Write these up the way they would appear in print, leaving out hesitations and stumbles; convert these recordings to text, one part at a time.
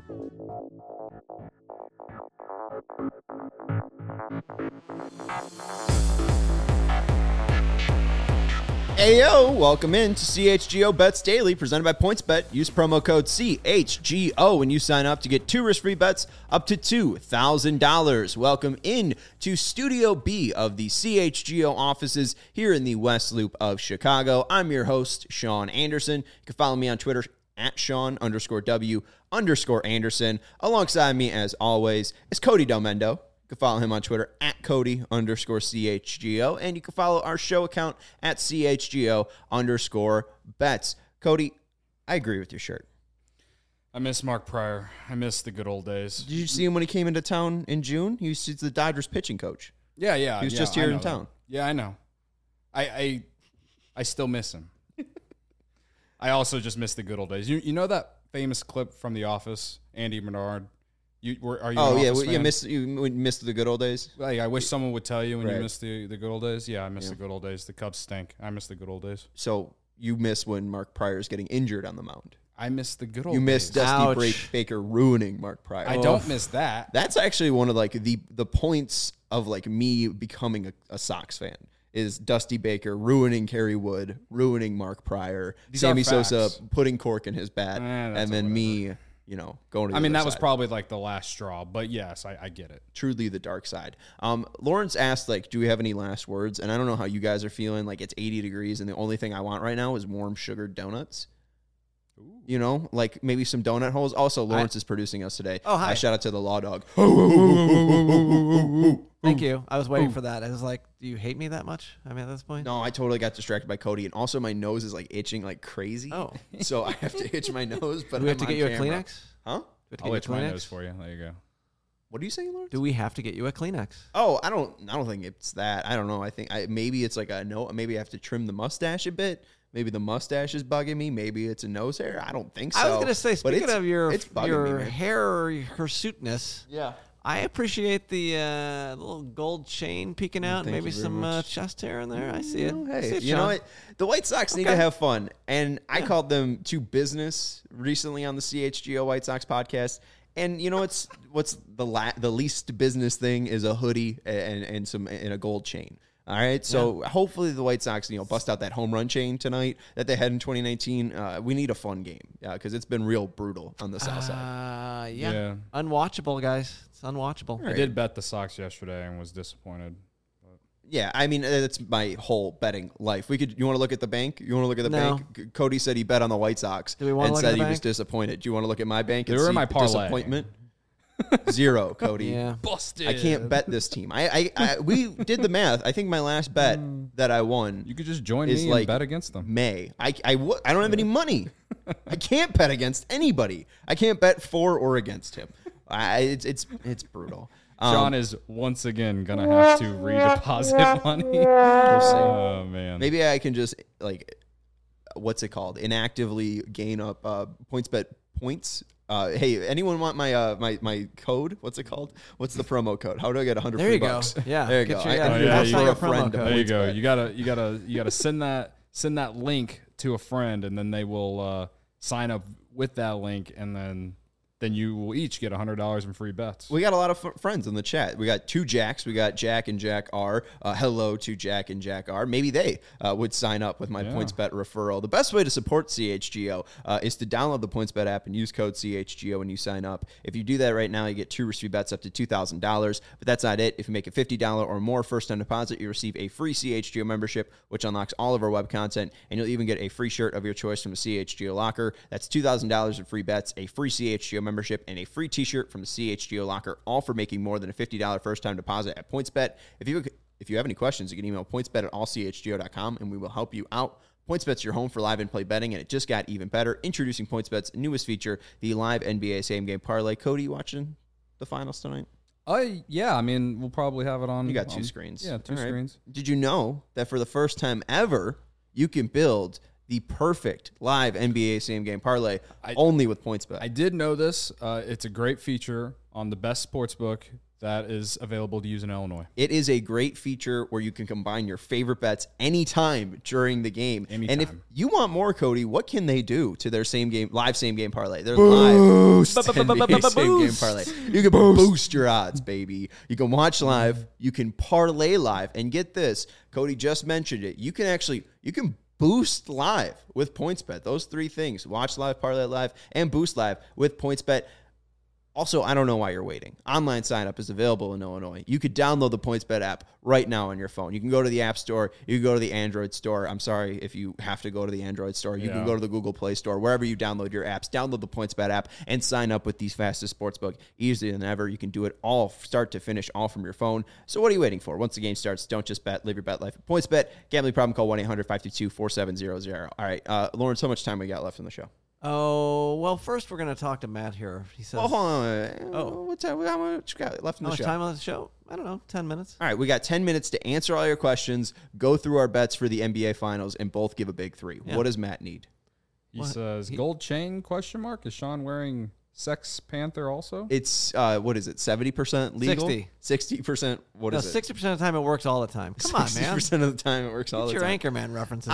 Ayo, welcome in to CHGO Bets Daily, presented by PointsBet. Use promo code CHGO when you sign up to get 2 risk-free bets up to $2,000. Welcome in to Studio B of the CHGO offices here in the West Loop of Chicago. I'm your host, Sean Anderson. You can follow me on Twitter at Sean_W_Anderson. Alongside me, as always, is Cody Delmendo. You can follow him on Twitter at Cody_CHGO, and you can follow our show account at CHGO_bets. Cody, I agree with your shirt. I miss Mark Pryor. I miss the good old days. Did you see him when he came into town in June? He was the Dodgers pitching coach. Yeah. He was just here in town. Yeah, I know. I still miss him. I also just miss the good old days. You know that famous clip from The Office, Andy Bernard? Are you? Oh, yeah. You missed the good old days? Like, I wish someone would tell you when you miss the good old days. Yeah, I miss the good old days. The Cubs stink. I miss the good old days. So you miss when Mark Pryor is getting injured on the mound. I miss the good old days. You miss Dusty Baker ruining Mark Pryor. I don't miss that. That's actually one of like the points of like me becoming a Sox fan. Is Dusty Baker ruining Kerry Wood, ruining Mark Pryor, Sammy Sosa putting cork in his bat, and then me, going to the that other was side. probably like the last straw, but yes, I get it. Truly the dark side. Lawrence asked, do we have any last words? And I don't know how you guys are feeling. Like, it's 80 degrees, and the only thing I want right now is warm sugared donuts. Ooh. Maybe some donut holes. Also, Lawrence is producing us today. Oh, hi. Shout out to the Law Dog. Thank you. I was waiting for that. I was like, do you hate me that much? I mean, at this point? No, I totally got distracted by Cody. And also, my nose is, itching like crazy. Oh. So I have to itch my nose. But do we have to get you a Kleenex? Huh? I'll itch my nose for you. There you go. What are you saying, Lawrence? Do we have to get you a Kleenex? Oh, I don't think it's that. I don't know. I think maybe it's like maybe I have to trim the mustache a bit. Maybe the mustache is bugging me. Maybe it's a nose hair. I don't think so. I was going to say, speaking of your me, hair hirsuteness, yeah, I appreciate the little gold chain peeking out. Maybe some chest hair in there. I see it. Hey, you know what? The White Sox need to have fun. And I called them to business recently on the CHGO White Sox podcast. And you know what's the least business thing is a hoodie and a gold chain. All right, so hopefully the White Sox, bust out that home run chain tonight that they had in 2019. We need a fun game because it's been real brutal on the South side. Yeah, unwatchable, guys. It's unwatchable. Right. I did bet the Sox yesterday and was disappointed. Yeah, I mean, that's my whole betting life. You want to look at the bank? You want to look at the bank? Cody said he bet on the White Sox and said he was disappointed. Do you want to look at my bank and see my disappointment? 0, Cody. Yeah. Busted. I can't bet this team. We did the math. I think my last bet that I won. You could just join me and bet against them. I don't have any money. I can't bet against anybody. I can't bet for or against him. It's brutal. Sean is once again gonna have to redeposit money. We'll see. Oh man. Maybe I can just what's it called? Inactively gain up PointsBet points. Hey, anyone want my my code? What's it called? What's the promo code? How do I get 100 there free you bucks? Go. Yeah, there you go. That's not your promo code. There you go. You gotta send that link to a friend, and then they will sign up with that link, and then you will each get $100 in free bets. We got a lot of friends in the chat. We got 2 Jacks. We got Jack and Jack R. Hello to Jack and Jack R. Maybe they would sign up with my PointsBet referral. The best way to support CHGO is to download the PointsBet app and use code CHGO when you sign up. If you do that right now, you get 2 risk-free bets up to $2,000. But that's not it. If you make a $50 or more first-time deposit, you receive a free CHGO membership, which unlocks all of our web content, and you'll even get a free shirt of your choice from a CHGO locker. That's $2,000 in free bets, a free CHGO membership, and a free t-shirt from the CHGO locker, all for making more than a $50 first-time deposit at PointsBet. If you have any questions, you can email pointsbet@allchgo.com, and we will help you out. PointsBet's your home for live in-play betting, and it just got even better. Introducing PointsBet's newest feature, the live NBA same-game parlay. Cody, you watching the finals tonight? Yeah. I mean, we'll probably have it on. You got 2 screens. Yeah, 2 screens. Did you know that for the first time ever, you can build the perfect live NBA same-game parlay only with PointsBet? I did know this. It's a great feature on the best sportsbook that is available to use in Illinois. It is a great feature where you can combine your favorite bets anytime during the game. Anytime. And if you want more, Cody, what can they do to their live same game parlay? Their live NBA same game parlay. You can boost your odds, baby. You can watch live. You can parlay live. And get this, Cody just mentioned it. You can boost live with PointsBet. Those three things: watch live, parlay live, and boost live with PointsBet. Also, I don't know why you're waiting. Online sign up is available in Illinois. You could download the PointsBet app right now on your phone. You can go to the App Store. You can go to the Android Store. I'm sorry if you have to go to the Android Store. You can go to the Google Play Store. Wherever you download your apps, download the PointsBet app and sign up with these fastest sportsbook easier than ever. You can do it all start to finish, all from your phone. So what are you waiting for? Once the game starts, don't just bet. Live your bet life at PointsBet. Gambling problem, call 1-800-522-4700. All right, Lawrence, how much time we got left in the show? Oh, well, first we're going to talk to Matt here. He says, hold on. What time? How much got left in the show? Time on the show? I don't know, 10 minutes. All right, we got 10 minutes to answer all your questions, go through our bets for the NBA Finals, and both give a big three. Yeah. What does Matt need? He says, gold chain, ? Is Sean wearing Sex Panther also? It's, what is it, 70% legal? 60%, what is it? 60% of the time it works all the time. Come on, man. 60% of the time it works all the time. Get your Anchorman references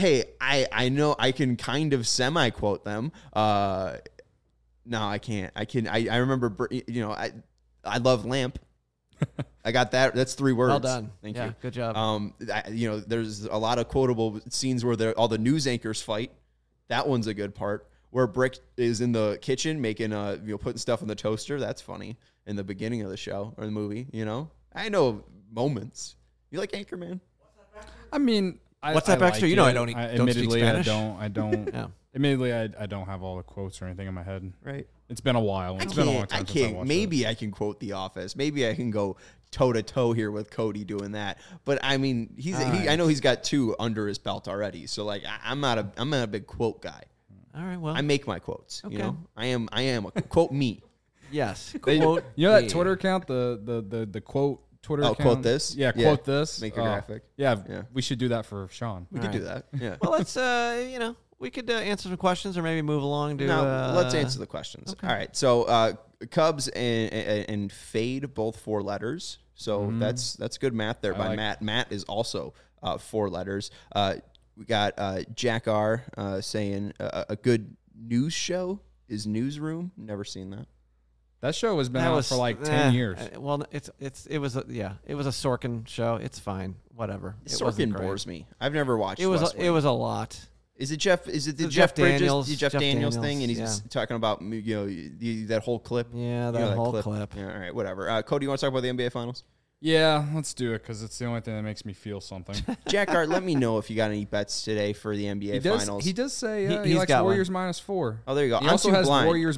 I know I can kind of semi-quote them. No, I can't. I remember, I love lamp. I got that. That's 3 words. Well done. Thank you. Good job. There's a lot of quotable scenes where all the news anchors fight. That one's a good part. Where Brick is in the kitchen making, putting stuff in the toaster. That's funny in the beginning of the show or the movie. I know moments. You like Anchorman? I mean, what's that, Baxter? Like I don't speak Spanish. I don't. Yeah. Admittedly, I don't have all the quotes or anything in my head. Right. It's been a while. It's been a long time since I watched Maybe I can quote The Office. Maybe I can go toe to toe here with Cody doing that. But I mean, I know he's got 2 under his belt already. So I'm not a big quote guy. All right, well, I make my quotes. Okay. I am a quote me. Yes. Quote that Twitter account, the quote Twitter account? Quote this? Yeah, quote this. Make a graphic. Yeah, we should do that for Sean. We could do that. Yeah. Well, let's we could answer some questions or maybe move along to let's answer the questions. Okay. All right. So Cubs and Fade, both 4 letters. So that's good math there by Matt. Matt is also 4 letters. We got Jack R saying a good news show is Newsroom. Never seen that. That show has been out for like 10 years. Well, it was a Sorkin show. It's fine. Whatever. Sorkin bores me. I've never watched. It was a lot. Is it Jeff? Is it the Jeff Daniels? The Jeff Daniels thing, and he's talking about that whole clip. Yeah, that whole clip. Yeah, all right, whatever. Cody, you want to talk about the NBA Finals? Yeah, let's do it because it's the only thing that makes me feel something. Jack Art, let me know if you got any bets today for the NBA Finals. He does say he likes Warriors -4. Oh, there you go. He also has Warriors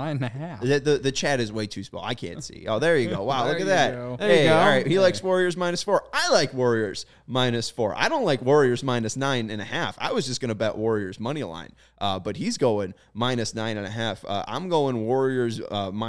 -9.5. The chat is way too small. I can't see. Oh, there you go. Wow, look at that. There you go. All right. He likes Warriors -4. I like Warriors -4. I don't like Warriors -9.5. I was just going to bet Warriors money line, but he's going -9.5. I'm going Warriors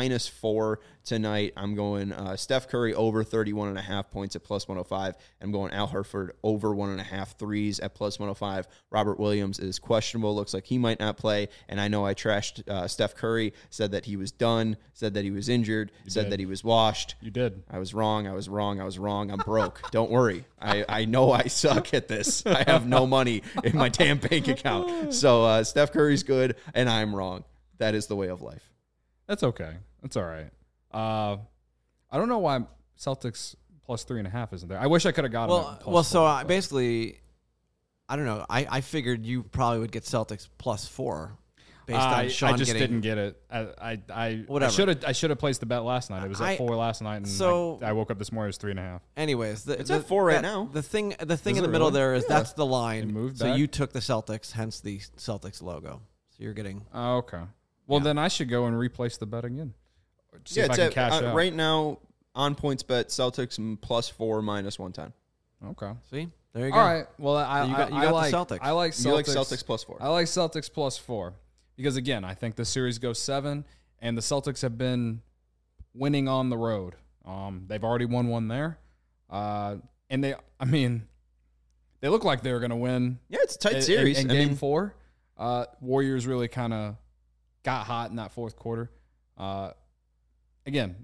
-4 tonight. I'm going Steph Curry over 31.5 points at +105. I'm going Al Horford over 1.5 threes at +105. Robert Williams is questionable. Looks like he might not play. And I know I trashed Steph Curry, said that he was done, said that he was injured, that he was washed. You did. I was wrong. I'm broke. Don't worry. I know I suck at this. I have no money in my damn bank account. So Steph Curry's good, and I'm wrong. That is the way of life. That's okay. That's all right. I don't know why Celtics +3.5 isn't there. I wish I could have gotten it. So basically, I don't know. I figured you probably would get Celtics +4 based on Sean. I just didn't get it. I should have placed the bet last night. It was at 4 last night, and I woke up this morning. It was 3.5. Anyways, it's at 4 right now. The thing in the middle there is that's the line. It moved so back? You took the Celtics, hence the Celtics logo. So you're getting. Oh, okay. Well, then I should go and replace the bet again. See if I can cash out. Right now on PointsBet, Celtics +4 -110. Okay. See, there you go. All right. Well, I like the Celtics. I like Celtics. You like Celtics +4. I like Celtics +4 because again, I think the series goes 7, and the Celtics have been winning on the road. They've already won one there, and they look like they're going to win. Yeah, it's a tight series. In Game 4, Warriors really kind of got hot in that fourth quarter. again,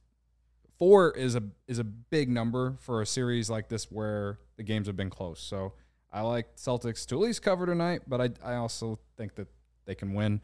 4 is a big number for a series like this where the games have been close. So I like Celtics to at least cover tonight, but I also think that they can win.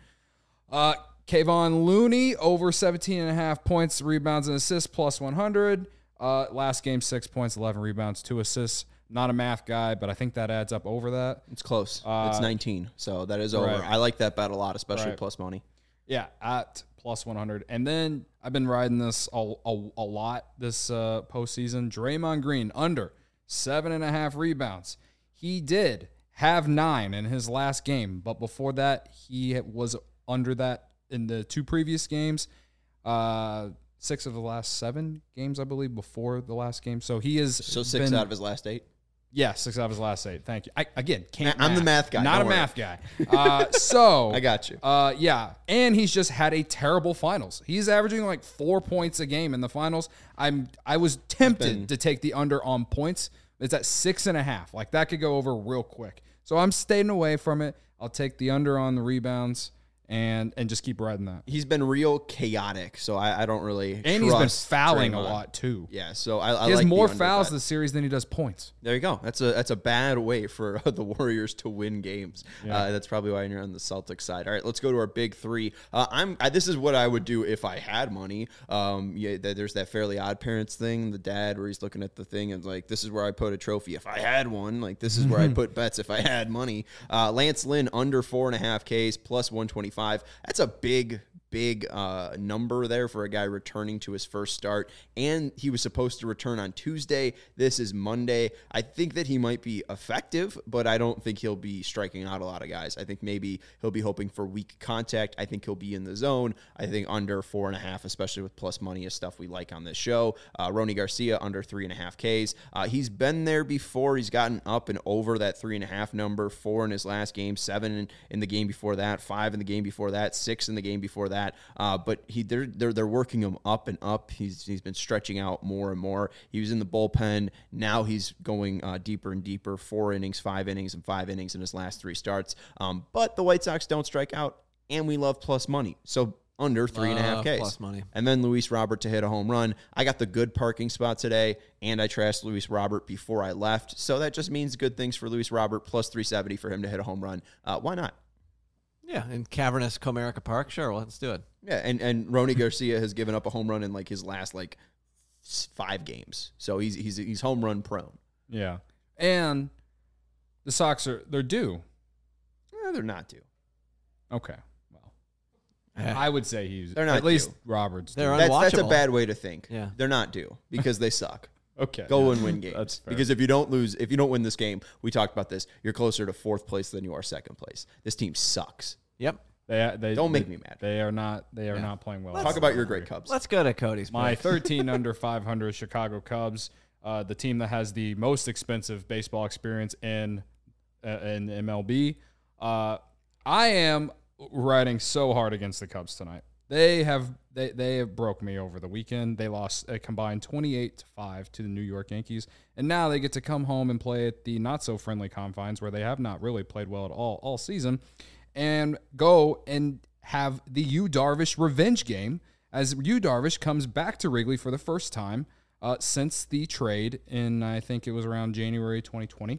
Kevon Looney over 17.5 points, rebounds, and assists plus 100. Last game, 6 points, 11 rebounds, 2 assists. Not a math guy, but I think that adds up over that. It's close. It's 19, so that is over. Right. I like that bet a lot, especially plus money. Yeah, at plus 100. And then I've been riding this a lot this postseason. Draymond Green under 7.5 rebounds. He did have 9 in his last game, but before that, he was under that in the 2 previous games. 6 of the last 7 games, I believe, before the last game. So he is 6 out of his last 8. Yeah, 6 out of his last 8. Thank you. I'm the math guy. Not a math guy. So I got you. Yeah, and he's just had a terrible finals. He's averaging like 4 points a game in the finals. I was tempted to take the under on points. It's at 6.5. Like that could go over real quick. So I'm staying away from it. I'll take the under on the rebounds and just keep riding that. He's been real chaotic, so I don't really And he's been fouling a lot too. Yeah, so I he has like more the fouls bet. this series than he does points. There you go. That's a bad way for the Warriors to win games. Yeah. That's probably why you're on the Celtics side. All right, let's go to our big 3. This is what I would do if I had money. There's that Fairly Odd Parents thing, the dad where he's looking at the thing and like, this is where I put a trophy if I had one. Like this is where I put bets if I had money. Lance Lynn under 4.5 Ks plus 125. That's a big number there for a guy returning to his first start, and he was supposed to return on Tuesday. This is Monday. I think that he might be effective, but I don't think he'll be striking out a lot of guys. I think maybe he'll be hoping for weak contact. I think he'll be in the zone. I think under 4.5, especially with plus money, is stuff we like on this show. Rony Garcia under 3.5 Ks. He's been there before. He's gotten up and over that 3.5 number. 4 in his last game, 7 in the game before that, 5 in the game before that, 6 in the game before that. But they're working him up and up. He's been stretching out more and more. He was in the bullpen. Now he's going deeper and deeper. 4 innings, 5 innings, and 5 innings in his last 3 starts. But the White Sox don't strike out, and we love plus money. So under 3.5 Ks. Plus money. And then Luis Robert to hit a home run. I got the good parking spot today, and I trashed Luis Robert before I left. So that just means good things for Luis Robert, plus 370 for him to hit a home run. Why not? Yeah, in cavernous Comerica Park. Sure, well, let's do it. Yeah, and Rony Garcia has given up a home run in like his last 5 games. So he's home run prone. Yeah. And the Sox they're due. They're not due. Okay. Well, I would say they're not at least due. Robert's due. They're That's a unwatchable. bad way to think. Yeah. They're not due because they suck. Okay. Go and win games. That's fair. Because if you don't win this game, we talked about this, you're closer to 4th place than you are 2nd place. This team sucks. Yep. They Don't make me mad. They are not playing well. Talk about your great Cubs. Let's go to Cody's. My pick. 13 under 500 Chicago Cubs, the team that has the most expensive baseball experience in MLB. I am riding so hard against the Cubs tonight. They have broke me over the weekend. They lost a combined 28-5 to the New York Yankees, and now they get to come home and play at the not so friendly confines where they have not really played well at all season, and go and have the Yu Darvish revenge game as Yu Darvish comes back to Wrigley for the first time since the trade in, I think it was around January 2020.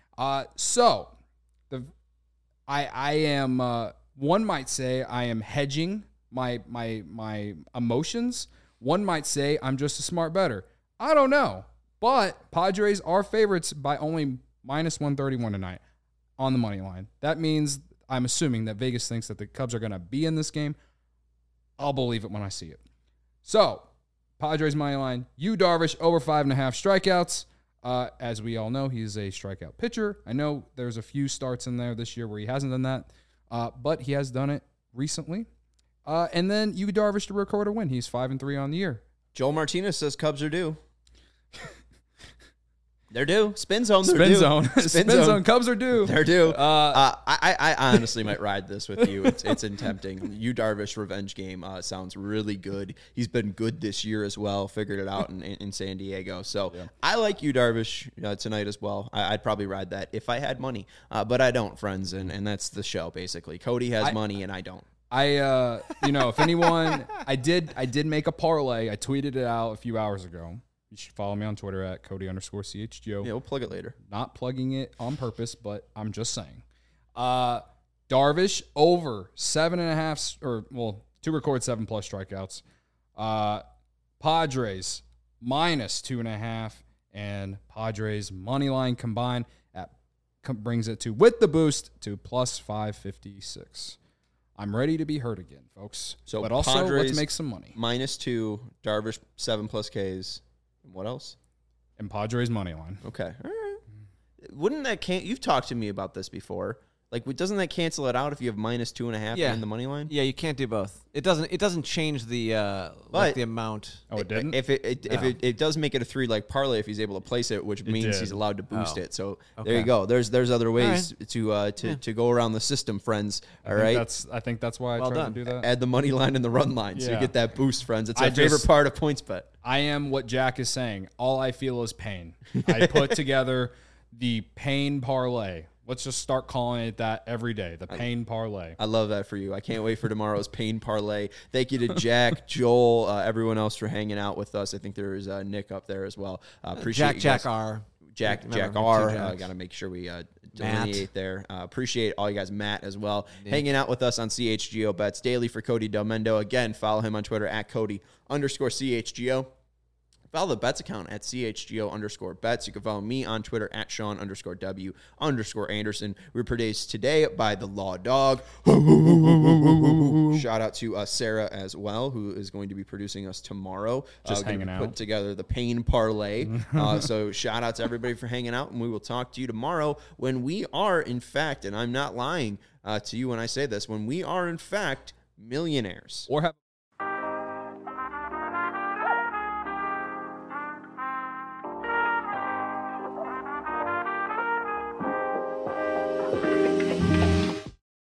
I am one might say I am hedging my emotions. One might say I'm just a smart bettor. I don't know. But Padres are favorites by only minus 131 tonight on the money line. That means I'm assuming that Vegas thinks that the Cubs are going to be in this game. I'll believe it when I see it. So, Padres money line, Yu Darvish over 5.5 strikeouts. As we all know, he's a strikeout pitcher. I know there's a few starts in there this year where he hasn't done that, but he has done it recently. And then Yu Darvish to record a win. He's 5-3 on the year. Joel Martinez says Cubs are due. They're due. Spin zone. They're Spin due. zone. Spin zone. Cubs are due. They're due. I honestly might ride this with you. It's tempting. Yu Darvish revenge game sounds really good. He's been good this year as well. Figured it out in San Diego. So yeah. I like Yu Darvish tonight as well. I'd probably ride that if I had money, but I don't, friends, and that's the show basically. Cody has money and I don't. If anyone, I did make a parlay. I tweeted it out a few hours ago. You should follow me on Twitter at Cody_CHGO. Yeah, we'll plug it later. Not plugging it on purpose, but I'm just saying. Darvish over 7.5, to record 7+ strikeouts. Padres -2.5, and Padres money line combined brings it with the boost to +556. I'm ready to be hurt again, folks. So, but also, Padres let's make some money. -2, Darvish 7+ Ks. And what else? And Padres money line. Okay. All right. Wouldn't that you've talked to me about this before. Like, doesn't that cancel it out if you have -2.5 in the money line? Yeah, you can't do both. It doesn't change the the amount. Oh, it didn't? If it does make it a 3 parlay if he's able to place it, which means he's allowed to boost it. So there you go. There's other ways to go around the system, friends. All right. I think that's why I tried to do that. Add the money line and the run line, so you get that boost, friends. It's our favorite part of PointsBet. I am what Jack is saying. All I feel is pain. I put together the pain parlay. Let's just start calling it that every day, the pain parlay. I love that for you. I can't wait for tomorrow's pain parlay. Thank you to Jack, Joel, everyone else for hanging out with us. I think there is Nick up there as well. Appreciate Jack R. Jack R. Got to make sure we delineate there. Appreciate all you guys. Matt as well. Nick. Hanging out with us on CHGO Bets Daily for Cody Delmendo. Again, follow him on Twitter at Cody_CHGO. Follow the Bets account at CHGO_Bets. You can follow me on Twitter at Sean_W_Anderson. We're produced today by the Law Dog. Shout out to Sarah as well, who is going to be producing us tomorrow. Just hanging out. Put together the pain parlay. So shout out to everybody for hanging out, and we will talk to you tomorrow when we are, in fact, and I'm not lying to you when I say this, when we are, in fact, millionaires. Or have